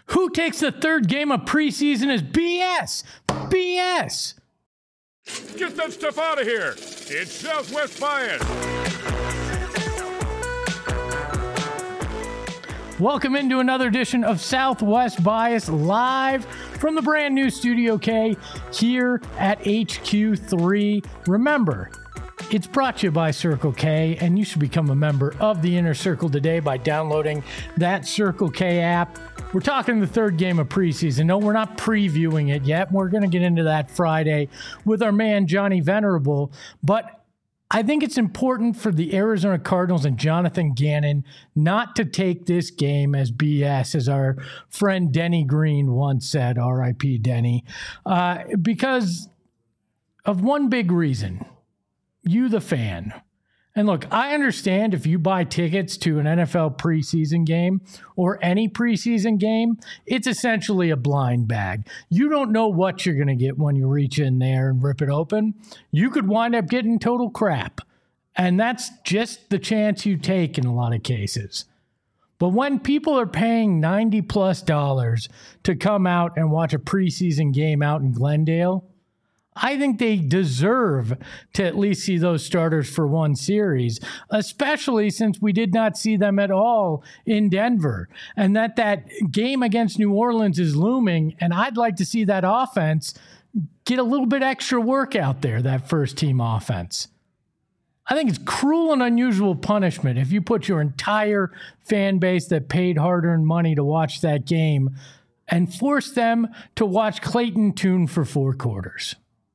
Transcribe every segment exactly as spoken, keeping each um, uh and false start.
Who takes the third game of preseason as B S? B S! Get that stuff out of here! It's Southwest Bias! Welcome into another edition of Southwest Bias, live from the brand new Studio K here at H Q three. Remember, it's brought to you by Circle K, and you should become a member of the Inner Circle today by downloading that Circle K app. We're talking the third game of preseason. No, we're not previewing it yet. We're going to get into that Friday with our man, Johnny Venerable. But I think it's important for the Arizona Cardinals and Jonathan Gannon not to take this game as B S, as our friend Denny Green once said, R I P Denny, uh, because of one big reason. You, the fan. And look, I understand if you buy tickets to an N F L preseason game or any preseason game, it's essentially a blind bag. You don't know what you're going to get when you reach in there and rip it open. You could wind up getting total crap. And that's just the chance you take in a lot of cases. But when people are paying ninety plus dollars to come out and watch a preseason game out in Glendale, I think they deserve to at least see those starters for one series, especially since we did not see them at all in Denver, and that that game against New Orleans is looming, and I'd like to see that offense get a little bit extra work out there, that first team offense. I think it's cruel and unusual punishment if you put your entire fan base that paid hard-earned money to watch that game and force them to watch Clayton Tune for four quarters.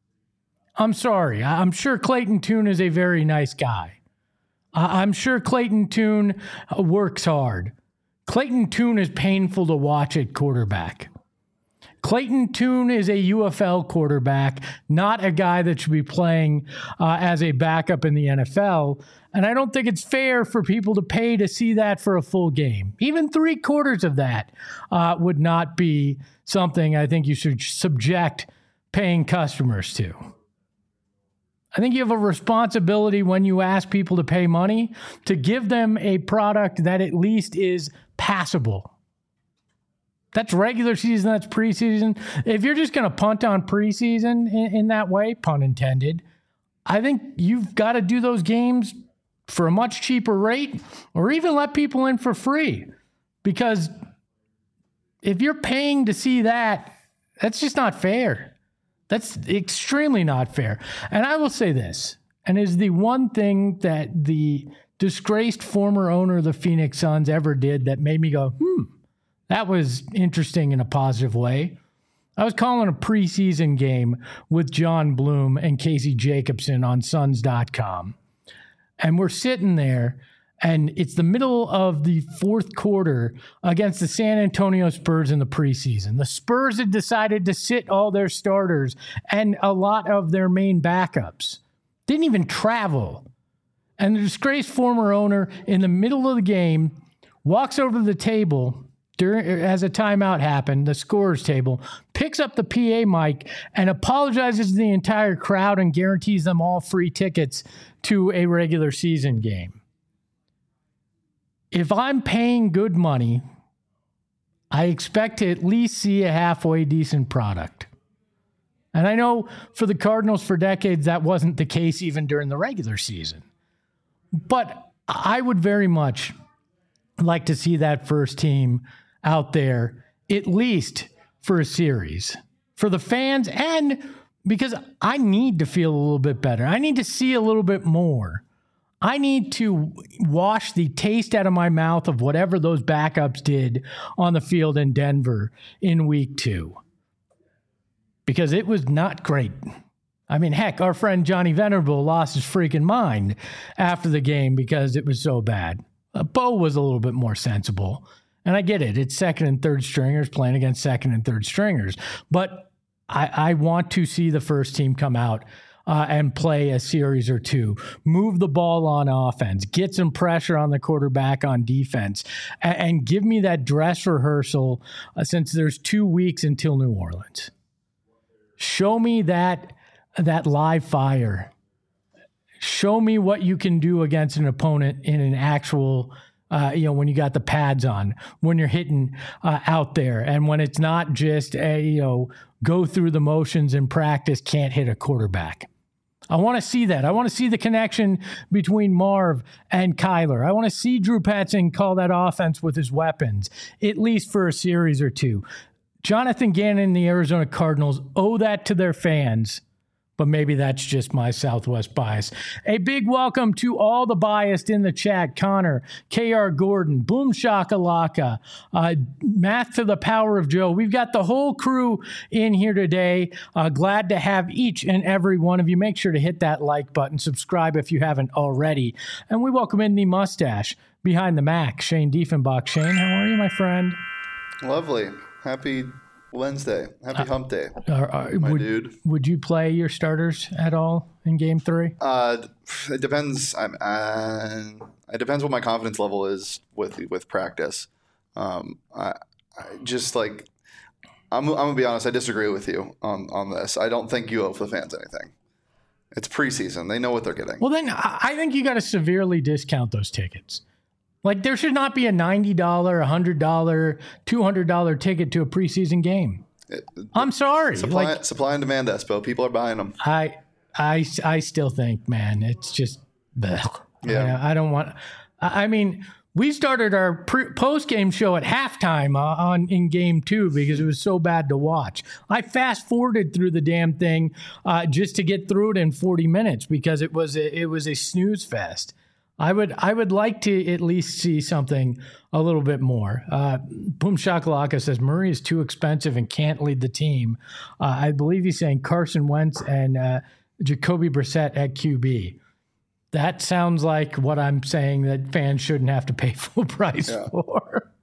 I'm sorry. I'm sure Clayton Tune is a very nice guy. I'm sure Clayton Tune works hard. Clayton Tune is painful to watch at quarterback. Clayton Tune is a U F L quarterback, not a guy that should be playing uh, as a backup in the N F L. And I don't think it's fair for people to pay to see that for a full game. Even three quarters of that uh, would not be something I think you should subject paying customers to. I think you have a responsibility when you ask people to pay money to give them a product that at least is passable. That's regular season, that's preseason. If you're just going to punt on preseason in, in that way, pun intended, I think you've got to do those games for a much cheaper rate or even let people in for free. Because if you're paying to see that, that's just not fair. That's extremely not fair. And I will say this, and is the one thing that the disgraced former owner of the Phoenix Suns ever did that made me go, hmm, that was interesting in a positive way. I was calling a preseason game with John Bloom and Casey Jacobson on Suns dot com. And we're sitting there, and it's the middle of the fourth quarter against the San Antonio Spurs in the preseason. The Spurs had decided to sit all their starters and a lot of their main backups. Didn't even travel. And the disgraced former owner in the middle of the game walks over to the table during, as a timeout happened, the scorer's table, picks up the P A mic and apologizes to the entire crowd and guarantees them all free tickets to a regular season game. If I'm paying good money, I expect to at least see a halfway decent product. And I know for the Cardinals for decades, that wasn't the case even during the regular season. But I would very much like to see that first team out there, at least for a series. For the fans, and because I need to feel a little bit better. I need to see a little bit more. I need to wash the taste out of my mouth of whatever those backups did on the field in Denver in week two. Because it was not great. I mean, heck, our friend Johnny Venerable lost his freaking mind after the game because it was so bad. Uh, Bo was a little bit more sensible. And I get it. It's second and third stringers playing against second and third stringers. But I, I want to see the first team come out Uh, and play a series or two, move the ball on offense, get some pressure on the quarterback on defense, and, and give me that dress rehearsal uh, since there's two weeks until New Orleans. Show me that, that live fire. Show me what you can do against an opponent in an actual Uh, you know, when you got the pads on, when you're hitting uh, out there, and when it's not just a, you know, go through the motions in practice, can't hit a quarterback. I want to see that. I want to see the connection between Marv and Kyler. I want to see Drew Petzing call that offense with his weapons, at least for a series or two. Jonathan Gannon and the Arizona Cardinals owe that to their fans, but maybe that's just my Southwest bias. A big welcome to all the biased in the chat. Connor, K R Gordon, Boom Shakalaka, uh, Math to the Power of Joe. We've got the whole crew in here today. Uh, glad to have each and every one of you. Make sure to hit that like button. Subscribe if you haven't already. And we welcome in the mustache behind the Mac, Shane Diefenbach. Shane, how are you, my friend? Lovely. Happy Wednesday. Happy hump day, uh, uh, my would, dude. Would you play your starters at all in game three? Uh, it depends. I'm, uh, it depends what my confidence level is with with practice. Um, I, I just like, I'm, I'm gonna be honest. I disagree with you on, on this. I don't think you owe the fans anything. It's preseason. They know what they're getting. Well, then I think you got to severely discount those tickets. Like, there should not be a ninety dollars, one hundred dollars, two hundred dollars ticket to a preseason game. It, I'm sorry. Supply, like, supply and demand, Espo. People are buying them. I, I, I still think, man, it's just, bleh. Yeah. I, I don't want. I mean, we started our pre- post-game show at halftime uh, on in game two because it was so bad to watch. I fast-forwarded through the damn thing uh, just to get through it in forty minutes because it was a, it was a snooze fest. I would I would like to at least see something a little bit more. Uh, Boom Shakalaka says Murray is too expensive and can't lead the team. Uh, I believe he's saying Carson Wentz and uh, Jacoby Brissett at Q B. That sounds like what I'm saying that fans shouldn't have to pay full price yeah. for.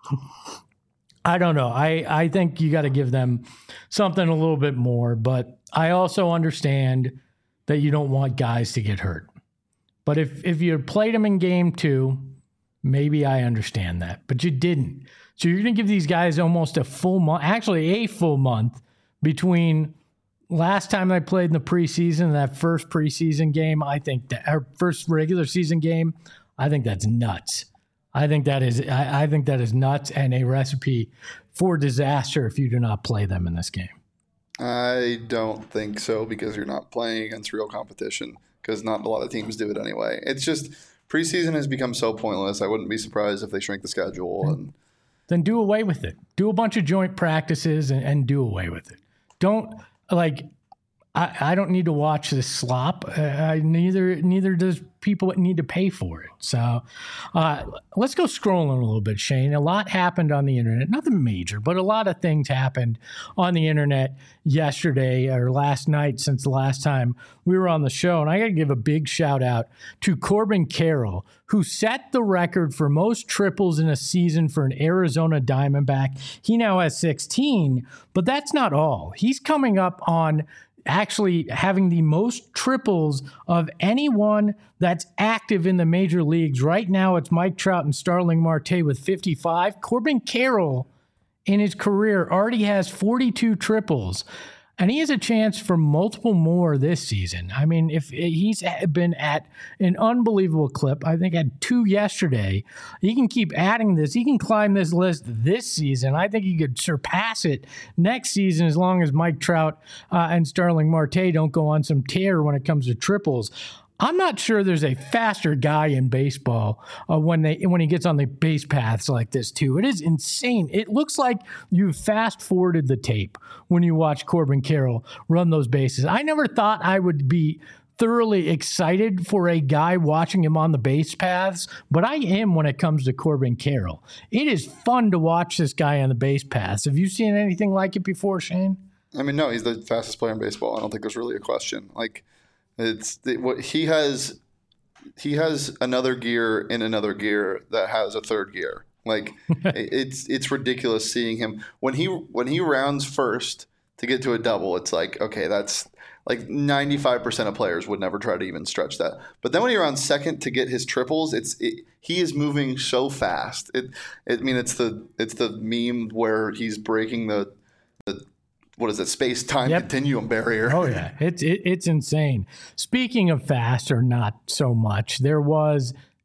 I don't know. I, I think you got to give them something a little bit more, but I also understand that you don't want guys to get hurt. But if, if you played them in game two, maybe I understand that. But you didn't. So you're going to give these guys almost a full month, actually a full month between last time I played in the preseason and that first preseason game. I think that our first regular season game, I think that's nuts. I think that is I, I think that is nuts and a recipe for disaster if you do not play them in this game. I don't think so because you're not playing against real competition. Because not a lot of teams do it anyway. It's just preseason has become so pointless. I wouldn't be surprised if they shrink the schedule. And then do away with it. Do a bunch of joint practices and, and do away with it. Don't like. I, I don't need to watch this slop. Uh, I, neither neither does people that need to pay for it. So uh, let's go scrolling a little bit, Shane. A lot happened on the internet. Nothing major, but a lot of things happened on the internet yesterday or last night since the last time we were on the show. And I got to give a big shout out to Corbin Carroll, who set the record for most triples in a season for an Arizona Diamondback. He now has sixteen, but that's not all. He's coming up on actually having the most triples of anyone that's active in the major leagues. Right now, it's Mike Trout and Starling Marte with fifty-five. Corbin Carroll, in his career, already has forty-two triples, and he has a chance for multiple more this season. I mean, if he's been at an unbelievable clip, I think had two yesterday, he can keep adding this. He can climb this list this season. I think he could surpass it next season as long as Mike Trout uh, and Starling Marte don't go on some tear when it comes to triples. I'm not sure there's a faster guy in baseball uh, when they when he gets on the base paths like this, too. It is insane. It looks like you fast-forwarded the tape when you watch Corbin Carroll run those bases. I never thought I would be thoroughly excited for a guy watching him on the base paths, but I am when it comes to Corbin Carroll. It is fun to watch this guy on the base paths. Have you seen anything like it before, Shane? I mean, no, he's the fastest player in baseball. I don't think there's really a question. Like, It's what he has. He has another gear in another gear that has a third gear. Like it's it's ridiculous seeing him when he when he rounds first to get to a double. It's like, okay, that's like ninety-five percent of players would never try to even stretch that. But then when he rounds second to get his triples, it's it, he is moving so fast. It, it I mean it's the it's the meme where he's breaking the the. What is it? Space-time yep. continuum barrier. Oh, yeah. It's it, it's insane. Speaking of fast or not so much, there was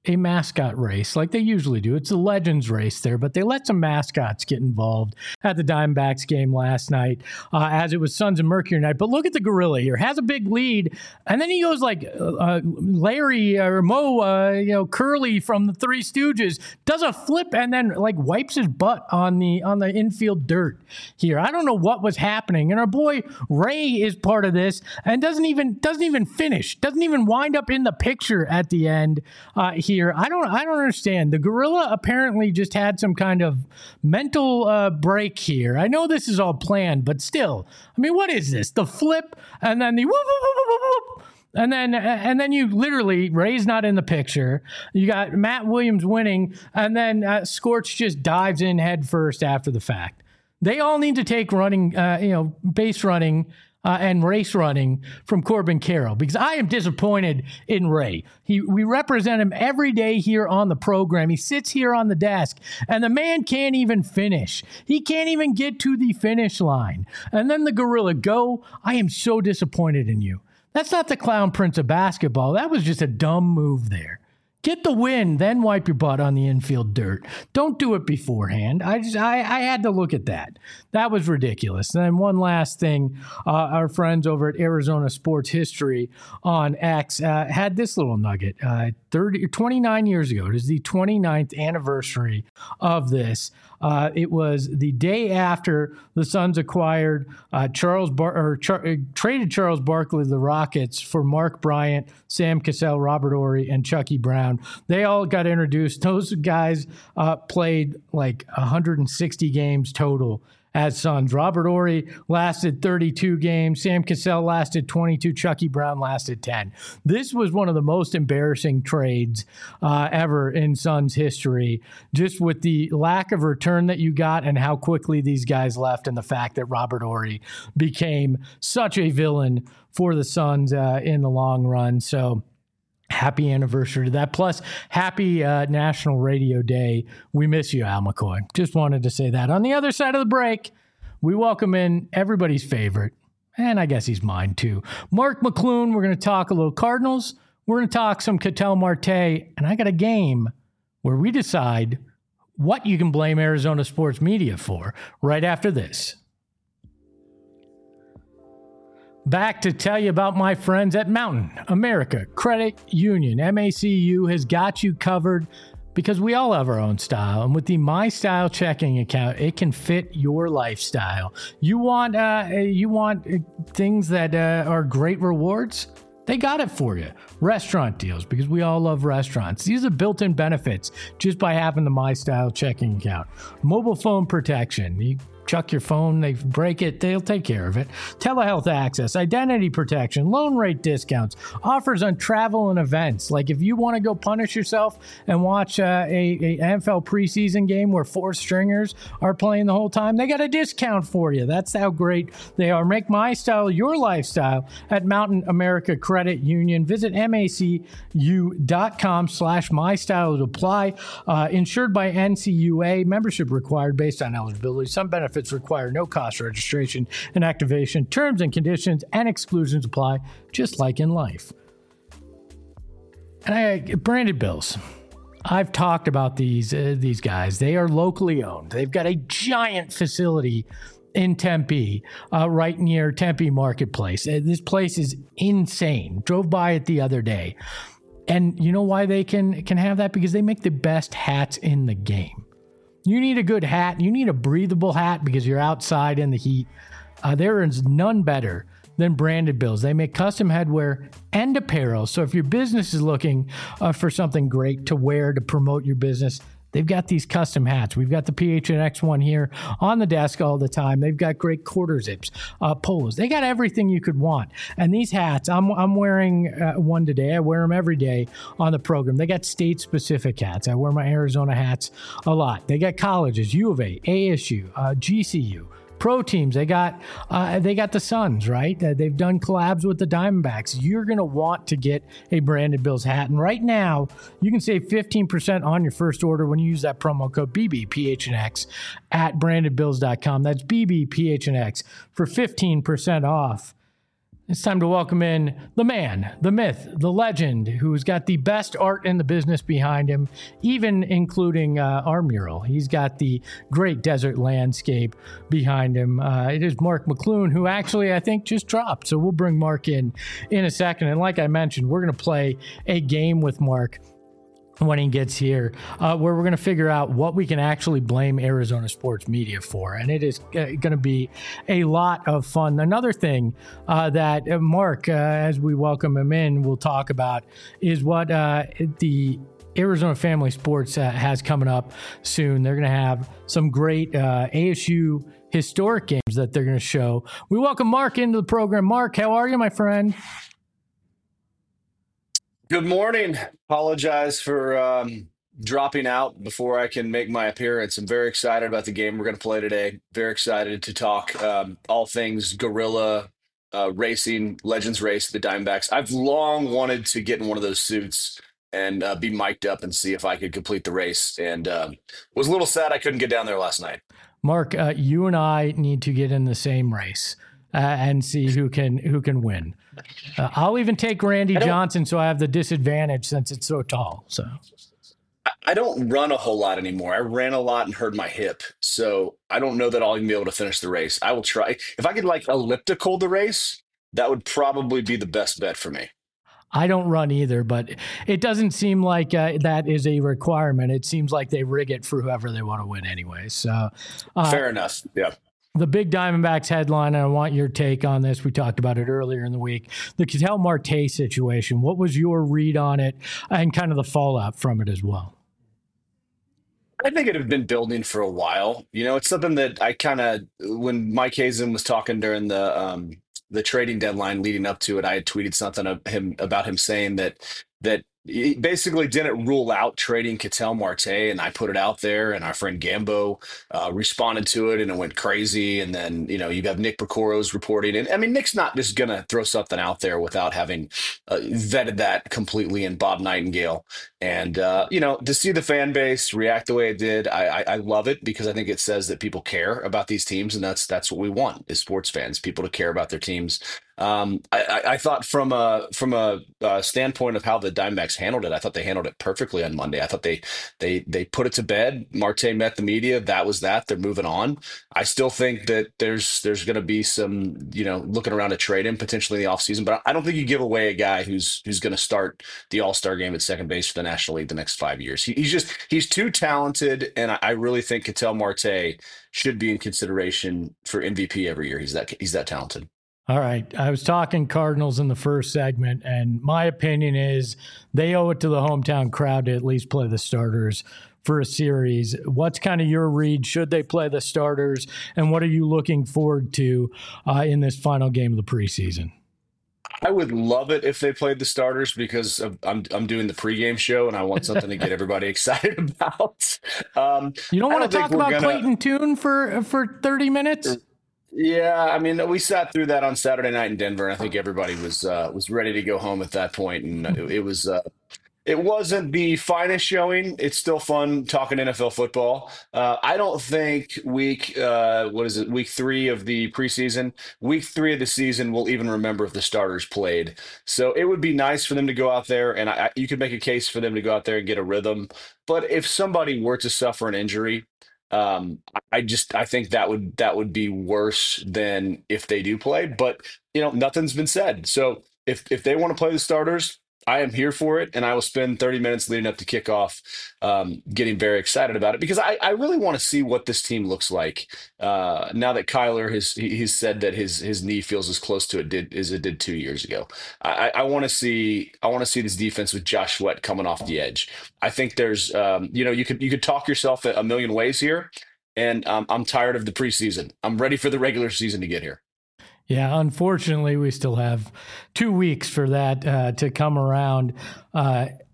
a mascot race like they usually do. It's a Legends race there, but they let some mascots get involved at the Diamondbacks game last night uh, as it was Suns and Mercury night. But look at the gorilla here. Has a big lead, and then he goes like uh, Larry or Mo, uh, you know, Curly from the Three Stooges, does a flip and then like wipes his butt on the on the infield dirt here. I don't know what was happening. And our boy Ray is part of this and doesn't even doesn't even finish, doesn't even wind up in the picture at the end uh, here. Here. I don't I don't understand. The gorilla apparently just had some kind of mental uh, break here. I know this is all planned, but still, I mean, what is this? The flip and then the whoop, whoop, whoop, whoop, whoop. And then and then you literally, Ray's not in the picture. You got Matt Williams winning, and then uh, Scorch just dives in head first after the fact. They all need to take running, uh, you know, base running Uh, and race running from Corbin Carroll, because I am disappointed in Ray. He, we represent him every day here on the program. He sits here on the desk, and the man can't even finish. He can't even get to the finish line. And then the gorilla, go, I am so disappointed in you. That's not the clown prince of basketball. That was just a dumb move there. Get the win, then wipe your butt on the infield dirt. Don't do it beforehand. I just, I, I had to look at that. That was ridiculous. And then one last thing, uh, our friends over at Arizona Sports History on X uh, had this little nugget. Uh, thirty, twenty-nine years ago, it is the twenty-ninth anniversary of this. Uh, it was the day after the Suns acquired uh, Charles Bar- or Char- uh, traded Charles Barkley to the Rockets for Mark Bryant, Sam Cassell, Robert Horry, and Chucky Brown. They all got introduced. Those guys uh, played like one hundred sixty games total as Suns. Robert Horry lasted thirty-two games. Sam Cassell lasted twenty-two. Chucky Brown lasted ten. This was one of the most embarrassing trades uh, ever in Suns history, just with the lack of return that you got and how quickly these guys left, and the fact that Robert Horry became such a villain for the Suns uh, in the long run. So happy anniversary to that. Plus, happy uh, National Radio Day. We miss you, Al McCoy. Just wanted to say that. On the other side of the break, we welcome in everybody's favorite, and I guess he's mine too, Mark McClune. We're going to talk a little Cardinals. We're going to talk some Ketel Marte, and I got a game where we decide what you can blame Arizona sports media for right after this. Back to tell you about my friends at Mountain America Credit Union. M A C U has got you covered because we all have our own style. And with the My Style checking account, it can fit your lifestyle. You want uh, you want things that uh, are great rewards? They got it for you. Restaurant deals, because we all love restaurants. These are built-in benefits just by having the My Style checking account. Mobile phone protection. You chuck your phone, they break it, they'll take care of it. Telehealth access, identity protection, loan rate discounts, offers on travel and events. Like if you want to go punish yourself and watch uh, a, a N F L preseason game where four stringers are playing the whole time, they got a discount for you. That's how great they are. Make My Style your lifestyle at Mountain America Credit Union. Visit macu.com slash mystyle to apply. Uh, insured by N C U A. Membership required based on eligibility. Some benefits require no cost registration and activation. Terms and conditions and exclusions apply, just like in life. And I, Branded Bills. I've talked about these uh, these guys. They are locally owned. They've got a giant facility in Tempe, uh, right near Tempe Marketplace. Uh, this place is insane. Drove by it the other day. And you know why they can can have that? Because they make the best hats in the game. You need a good hat. You need a breathable hat because you're outside in the heat. Uh, there is none better than Branded Bills. They make custom headwear and apparel. So if your business is looking uh, for something great to wear to promote your business, they've got these custom hats. We've got the P H N X one here on the desk all the time. They've got great quarter zips, uh, polos. They got everything you could want. And these hats, I'm I'm wearing uh, one today. I wear them every day on the program. They got state-specific hats. I wear my Arizona hats a lot. They got colleges, U of A, A S U, uh, G C U. Pro teams, they got uh, they got the Suns, right? Uh, they've done collabs with the Diamondbacks. You're going to want to get a Branded Bills hat. And right now, you can save fifteen percent on your first order when you use that promo code B B P H N X at branded bills dot com. That's B B P H N X for fifteen percent off. It's time to welcome in the man, the myth, the legend, who's got the best art in the business behind him, even including uh, our mural. He's got the great desert landscape behind him. Uh, it is Mark McClune, who actually I think just dropped. So we'll bring Mark in in a second. And like I mentioned, we're going to play a game with Mark when he gets here, uh, where we're going to figure out what we can actually blame Arizona sports media for. And it is uh, going to be a lot of fun. Another thing uh, that uh, Mark, uh, as we welcome him in, will talk about is what uh, the Arizona Family Sports uh, has coming up soon. They're going to have some great uh, A S U historic games that they're going to show. We welcome Mark into the program. Mark, how are you, my friend? Good morning. Apologize for um, dropping out before I can make my appearance. I'm very excited about the game we're going to play today. Very excited to talk um, all things Gorilla uh, Racing, Legends Race, the Diamondbacks. I've long wanted to get in one of those suits and uh, be mic'd up and see if I could complete the race. And um, was a little sad I couldn't get down there last night. Mark, uh, you and I need to get in the same race uh, and see who can who can win. Uh, I'll even take Randy Johnson, so I have the disadvantage since it's so tall. So I don't run a whole lot anymore. I ran a lot and hurt my hip, so I don't know that I'll even be able to finish the race. I will try. If I could like elliptical the race, that would probably be the best bet for me. I don't run either, but it doesn't seem like uh, that is a requirement. It seems like they rig it for whoever they want to win anyway. So uh, fair enough. Yeah. The big Diamondbacks headline, and I want your take on this. We talked about it earlier in the week. The Ketel Marte situation. What was your read on it and kind of the fallout from it as well? I think it had been building for a while. You know, it's something that I kind of, when Mike Hazen was talking during the um, the trading deadline leading up to it, I had tweeted something of him about him saying that that he basically didn't rule out trading Ketel Marte, and I put it out there, and our friend Gambo uh, responded to it, and it went crazy. And then, you know, you have Nick Picoros reporting, and I mean, Nick's not just going to throw something out there without having uh, vetted that completely in Bob Nightingale. And, uh, you know, to see the fan base react the way it did, I, I, I love it because I think it says that people care about these teams, and that's that's what we want as sports fans, people to care about their teams. Um, I, I thought from a from a uh, standpoint of how the Diamondbacks handled it, I thought they handled it perfectly on Monday. I thought they they they put it to bed. Marte met the media. That was that. They're moving on. I still think that there's there's going to be some, you know, looking around to trade him potentially in the offseason, but I don't think you give away a guy who's who's going to start the All-Star game at second base for the National League the next five years. He, he's just he's too talented, and I, I really think Ketel Marte should be in consideration for M V P every year. He's that he's that talented. All right. I was talking Cardinals in the first segment, and my opinion is they owe it to the hometown crowd to at least play the starters for a series. What's kind of your read? Should they play the starters? And what are you looking forward to uh, in this final game of the preseason? I would love it if they played the starters because of, I'm I'm doing the pregame show and I want something to get everybody excited about. Um, you don't want don't to talk about gonna... Clayton Tune for for thirty minutes? Yeah, I mean, we sat through that on Saturday night in Denver, and I think everybody was uh, was ready to go home at that point, and it, it was uh, it wasn't the finest showing. It's still fun talking N F L football. Uh, I don't think week uh, what is it week three of the preseason, week three of the season, we'll even remember if the starters played. So it would be nice for them to go out there, and I, you could make a case for them to go out there and get a rhythm. But if somebody were to suffer an injury, Um, I just I think that would that would be worse than if they do play. But you know, nothing's been said. So if if they want to play the starters, I am here for it, and I will spend thirty minutes leading up to kickoff um, getting very excited about it because I, I really want to see what this team looks like uh, now that Kyler has he, he's said that his his knee feels as close to it did as it did two years ago. I, I want to see I want to see this defense with Josh Sweat coming off the edge. I think there's um, you know you could you could talk yourself a million ways here, and um, I'm tired of the preseason. I'm ready for the regular season to get here. Yeah, unfortunately, we still have two weeks for that uh, to come around. Uh,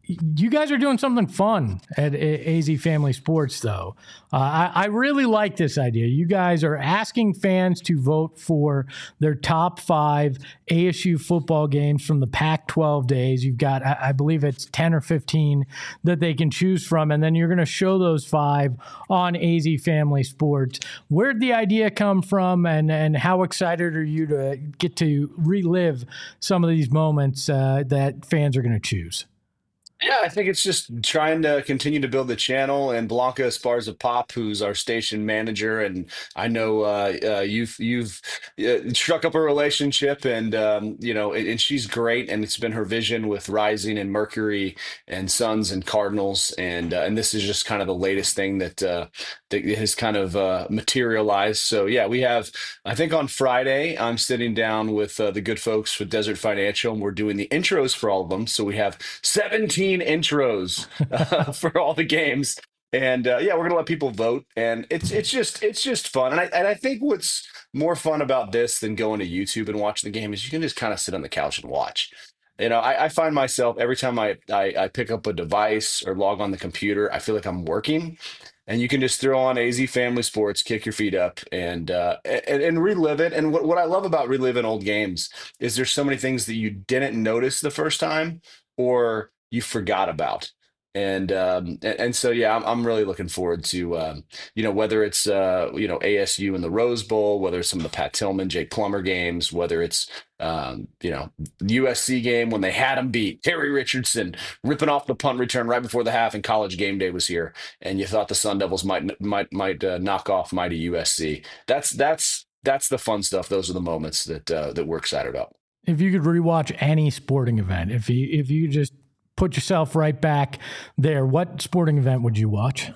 you guys are doing something fun at A Z Family Sports, though. Uh, I, I really like this idea. You guys are asking fans to vote for their top five A S U football games from the Pac twelve days. You've got, I, I believe it's ten or fifteen that they can choose from, and then you're going to show those five on A Z Family Sports. Where'd the idea come from, and, and how excited are you to get to relive some of these moments uh, that fans are going to choose? Yeah, I think it's just trying to continue to build the channel. And Blanca Esparza Pop, who's our station manager, and I know uh, uh, you've you've uh, struck up a relationship, and um, you know, and, and she's great. And it's been her vision with Rising and Mercury and Suns and Cardinals, and uh, and this is just kind of the latest thing that uh, that has kind of uh, materialized. So yeah, we have. I think on Friday, I'm sitting down with uh, the good folks with Desert Financial, and we're doing the intros for all of them. So we have seventeen intros uh, for all the games, and uh, yeah, we're gonna let people vote, and it's it's just it's just fun. And I and I think what's more fun about this than going to YouTube and watching the game is you can just kind of sit on the couch and watch. You know, I, I find myself every time I, I I pick up a device or log on the computer, I feel like I'm working. And you can just throw on A Z Family Sports, kick your feet up, and uh, and, and relive it. And what, what I love about reliving old games is there's so many things that you didn't notice the first time, or you forgot about. And um, and, and so yeah, I'm I'm really looking forward to um, you know, whether it's uh, you know, A S U in the Rose Bowl, whether it's some of the Pat Tillman, Jake Plummer games, whether it's um, you know, U S C game when they had him beat, Terry Richardson ripping off the punt return right before the half, and College Game Day was here, and you thought the Sun Devils might might might uh, knock off mighty U S C. That's that's that's the fun stuff. Those are the moments that uh, that we're excited about. If you could rewatch any sporting event, if you if you just put yourself right back there, what sporting event would you watch?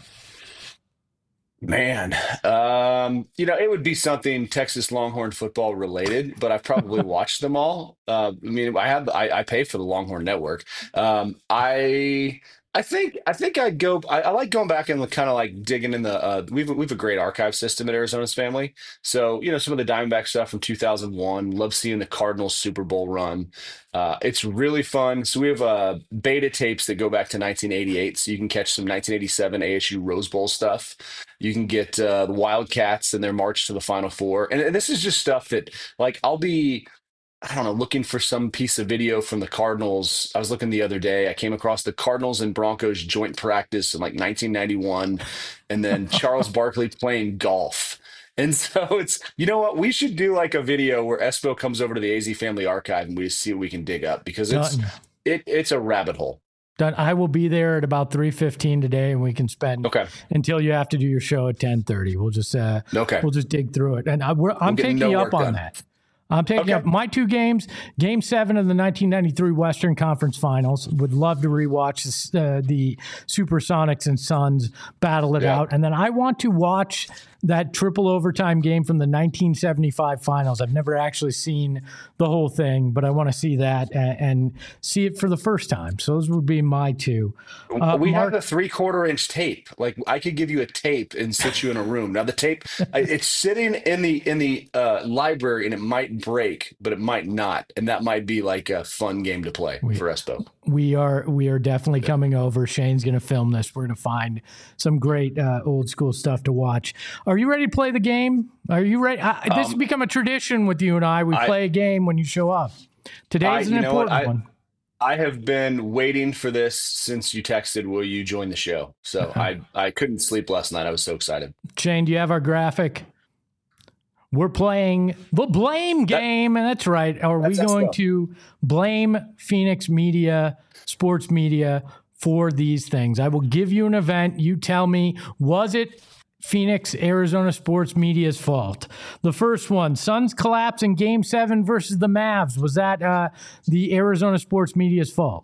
Man, um, you know, it would be something Texas Longhorn football related, but I've probably watched them all. Uh, I mean, I have I, I pay for the Longhorn Network. Um, I I think I think I'd go. I, I like going back and kind of like digging in the. Uh, we've we've a great archive system at Arizona's Family. So you know, some of the Diamondback stuff from two thousand one. Love seeing the Cardinals Super Bowl run. Uh, it's really fun. So we have uh, beta tapes that go back to nineteen eighty-eight, so you can catch some nineteen eighty-seven A S U Rose Bowl stuff. You can get uh, the Wildcats and their march to the Final Four, and, and this is just stuff that, like, I'll be, I don't know, looking for some piece of video from the Cardinals. I was looking the other day. I came across the Cardinals and Broncos joint practice in like nineteen ninety-one, and then Charles Barkley playing golf. And so it's, you know what, we should do like a video where Espo comes over to the A Z Family Archive and we just see what we can dig up, because it's Done. it it's a rabbit hole. Done. I will be there at about three fifteen today, and we can spend Okay. until you have to do your show at ten thirty. We'll just uh, Okay. we'll just dig through it, and I, we're, I'm get taking no you work up on done. that. I'm taking Okay. up my two games. Game seven of the nineteen ninety-three Western Conference Finals. Would love to rewatch this, uh, the Supersonics and Suns battle it Yeah. out. And then I want to watch that triple overtime game from the nineteen seventy-five finals. I've never actually seen the whole thing, but I want to see that and, and see it for the first time. So those would be my two. Uh, we Mark- have the three quarter inch tape. Like, I could give you a tape and sit you in a room. Now the tape, I- it's sitting in the in the uh, library, and it might break, but it might not, and that might be like a fun game to play We- for Espo. We are we are definitely coming over. Shane's going to film this. We're going to find some great uh, old school stuff to watch. Are you ready to play the game? Are you ready? I, this has Um, become a tradition with you and I. We I- play a game when you show up. Today's I- an you know what? important I- one. I have been waiting for this since you texted, will you join the show? So I I couldn't sleep last night. I was so excited. Shane, do you have our graphic? We're playing the blame game, and that's right. Are we That's going Espo. to blame Phoenix Media, sports media, for these things? I will give you an event. You tell me, was it Phoenix, Arizona sports media's fault? The first one, Suns collapse in game seven versus the Mavs. Was that uh, the Arizona sports media's fault?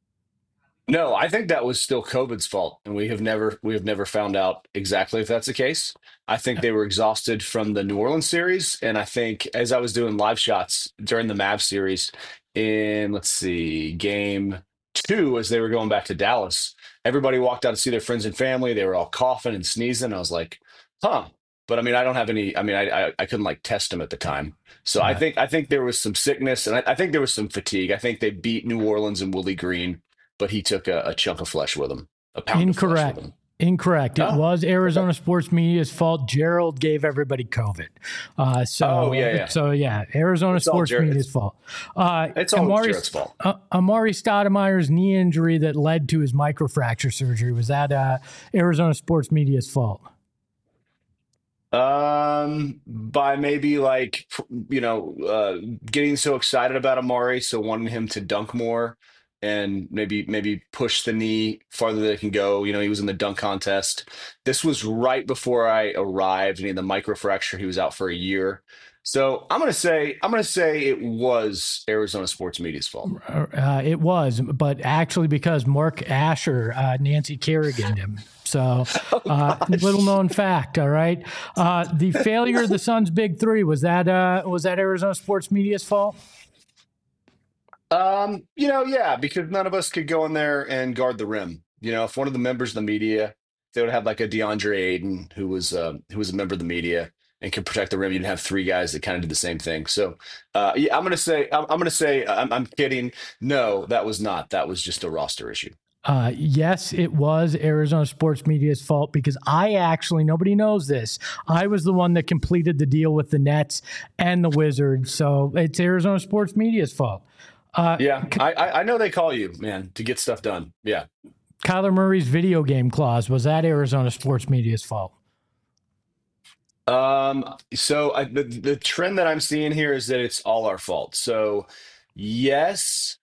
No, I think that was still COVID's fault, and we have never we have never found out exactly if that's the case. I think they were exhausted from the New Orleans series, and I think as I was doing live shots during the Mavs series in, let's see, game two, as they were going back to Dallas, everybody walked out to see their friends and family. They were all coughing and sneezing. I was like, huh. But I mean, I don't have any. I mean, I I, I couldn't like test them at the time. So I Right. think I think there was some sickness, and I, I think there was some fatigue. I think they beat New Orleans and Willie Green. but he took a, a chunk of flesh with him, a pound Incorrect. of flesh with him. Incorrect. It Oh. was Arizona Sports Media's fault. Gerald gave everybody COVID. Uh, so, Oh, yeah, yeah. So, yeah, Arizona It's all Sports Jared- Media's fault. Uh, It's all Amari, Jared's fault. Uh, Amari Stoudemire's knee injury that led to his microfracture surgery, was that uh, Arizona Sports Media's fault? Um, by maybe like, you know, uh, getting so excited about Amari, so wanting him to dunk more and maybe maybe push the knee farther than it can go. You know, he was in the dunk contest. This was right before I arrived, and he had the microfracture. He was out for a year. So I'm gonna say I'm gonna say it was Arizona Sports Media's fault. Uh, it was, but actually because Mark Asher, uh, Nancy Kerrigan him. So, uh, little known fact. All right, uh, the failure of the Suns' big three, was that uh, was that Arizona Sports Media's fault? Um, you know, yeah, because none of us could go in there and guard the rim. You know, if one of the members of the media, they would have like a DeAndre Ayton who was uh, who was a member of the media and could protect the rim. You'd have three guys that kind of did the same thing. So, uh, yeah, I'm gonna say I'm, I'm gonna say I'm, I'm kidding. No, that was not. That was just a roster issue. Uh, yes, it was Arizona Sports Media's fault because I actually, nobody knows this, I was the one that completed the deal with the Nets and the Wizards. So it's Arizona Sports Media's fault. Uh, Yeah, I, I I know they call you, man, to get stuff done. Yeah. Kyler Murray's video game clause, was that Arizona Sports Media's fault? Um, so I, the the trend that I'm seeing here is that it's all our fault. So yes,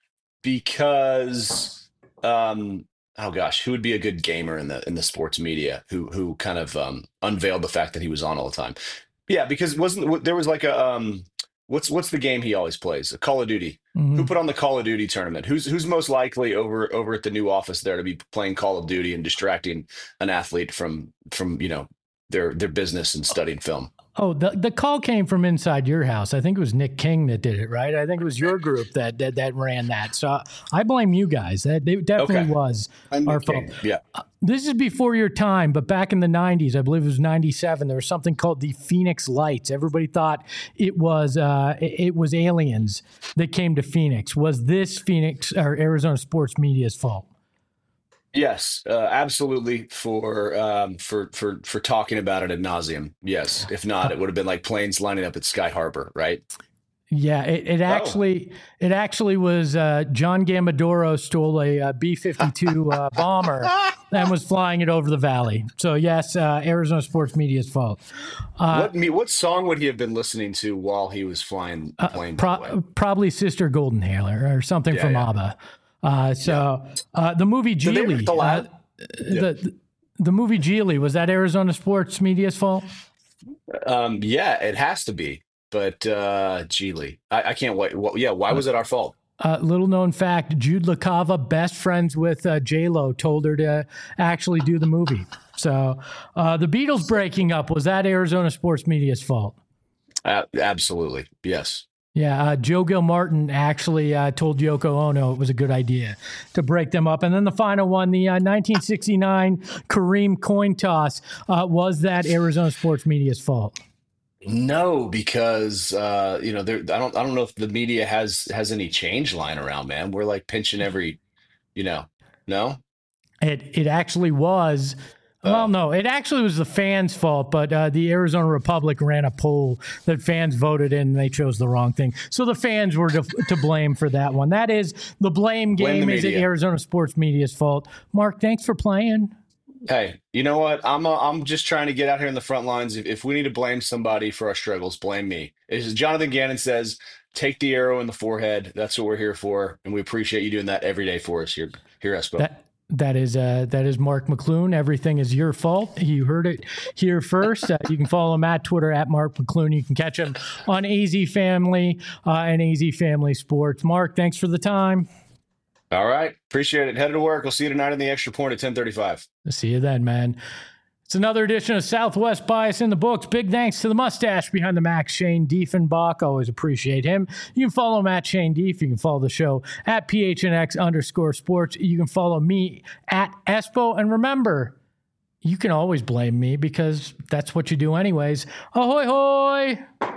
because um, oh gosh, who would be a good gamer in the in the sports media who who kind of um unveiled the fact that he was on all the time? Yeah, because wasn't there was like a um what's what's the game he always plays? A Call of Duty. Mhm. Who put on the Call of Duty tournament? Who's who's most likely over over at the new office there to be playing Call of Duty and distracting an athlete from from you know their their business and studying film? Oh, the, the call came from inside your house. I think it was Nick King that did it, right? I think it was your group that that, that ran that. So I blame you guys. That it definitely Okay. was I'm our Nick King. fault. Yeah. This is before your time, but back in the nineties, I believe it was ninety-seven, there was something called the Phoenix Lights. Everybody thought it was uh, it it was aliens that came to Phoenix. Was this Phoenix or Arizona Sports Media's fault? Yes, uh, absolutely. For um, for for for talking about it ad nauseum. Yes. If not, it would have been like planes lining up at Sky Harbor, right? Yeah, it, it actually it actually was uh, John Gambadoro stole a uh, B fifty-two uh, bomber and was flying it over the valley. So yes, uh, Arizona Sports Media's fault. Uh, what me? What song would he have been listening to while he was flying the plane? by the way? Pro- probably Sister Golden Hailer or something Yeah, from yeah. ABBA. Uh, so uh, the movie Did they Geely, make the uh, lab? the the movie Geely, was that Arizona Sports Media's fault? Um, yeah, it has to be. But uh, Geely, I, I can't wait. Well, yeah, why was it our fault? Uh, little known fact: Jude LaCava, best friends with uh, J Lo, told her to actually do the movie. So uh, the Beatles breaking up, was that Arizona Sports Media's fault? Uh, absolutely, yes. Yeah, uh, Joe Gilmartin actually uh, told Yoko Ono it was a good idea to break them up. And then the final one, the uh, nineteen sixty-nine Kareem coin toss, uh, was that Arizona Sports Media's fault? No, because uh, you know, there. I don't. I don't know if the media has has any change lying around, man. We're like pinching every, you know, no. It it actually was. Well, no, it actually was the fans' fault, but uh, the Arizona Republic ran a poll that fans voted in, and they chose the wrong thing. So the fans were to, to blame for that one. That is, the blame Blame game the is the media. Arizona Sports Media's fault. Mark, thanks for playing. Hey, you know what? I'm uh, I'm just trying to get out here in the front lines. If, if we need to blame somebody for our struggles, blame me. As Jonathan Gannon says, take the arrow in the forehead. That's what we're here for, and we appreciate you doing that every day for us here here at Espo. That that is uh, that is Mark McClune. Everything is your fault. You heard it here first. Uh, you can follow him at Twitter at Mark McClune. You can catch him on A Z Family uh, and A Z Family Sports. Mark, thanks for the time. All right, appreciate it. Headed to work. We'll see you tonight in the Extra Point at ten thirty-five. See you then, man. It's another edition of Southwest Bias in the books. Big thanks to the mustache behind the Max, Shane Diefenbach. Always appreciate him. You can follow him at Shane Dief. You can follow the show at P H N X underscore sports. You can follow me at Espo. And remember, you can always blame me because that's what you do anyways. Ahoy, hoy!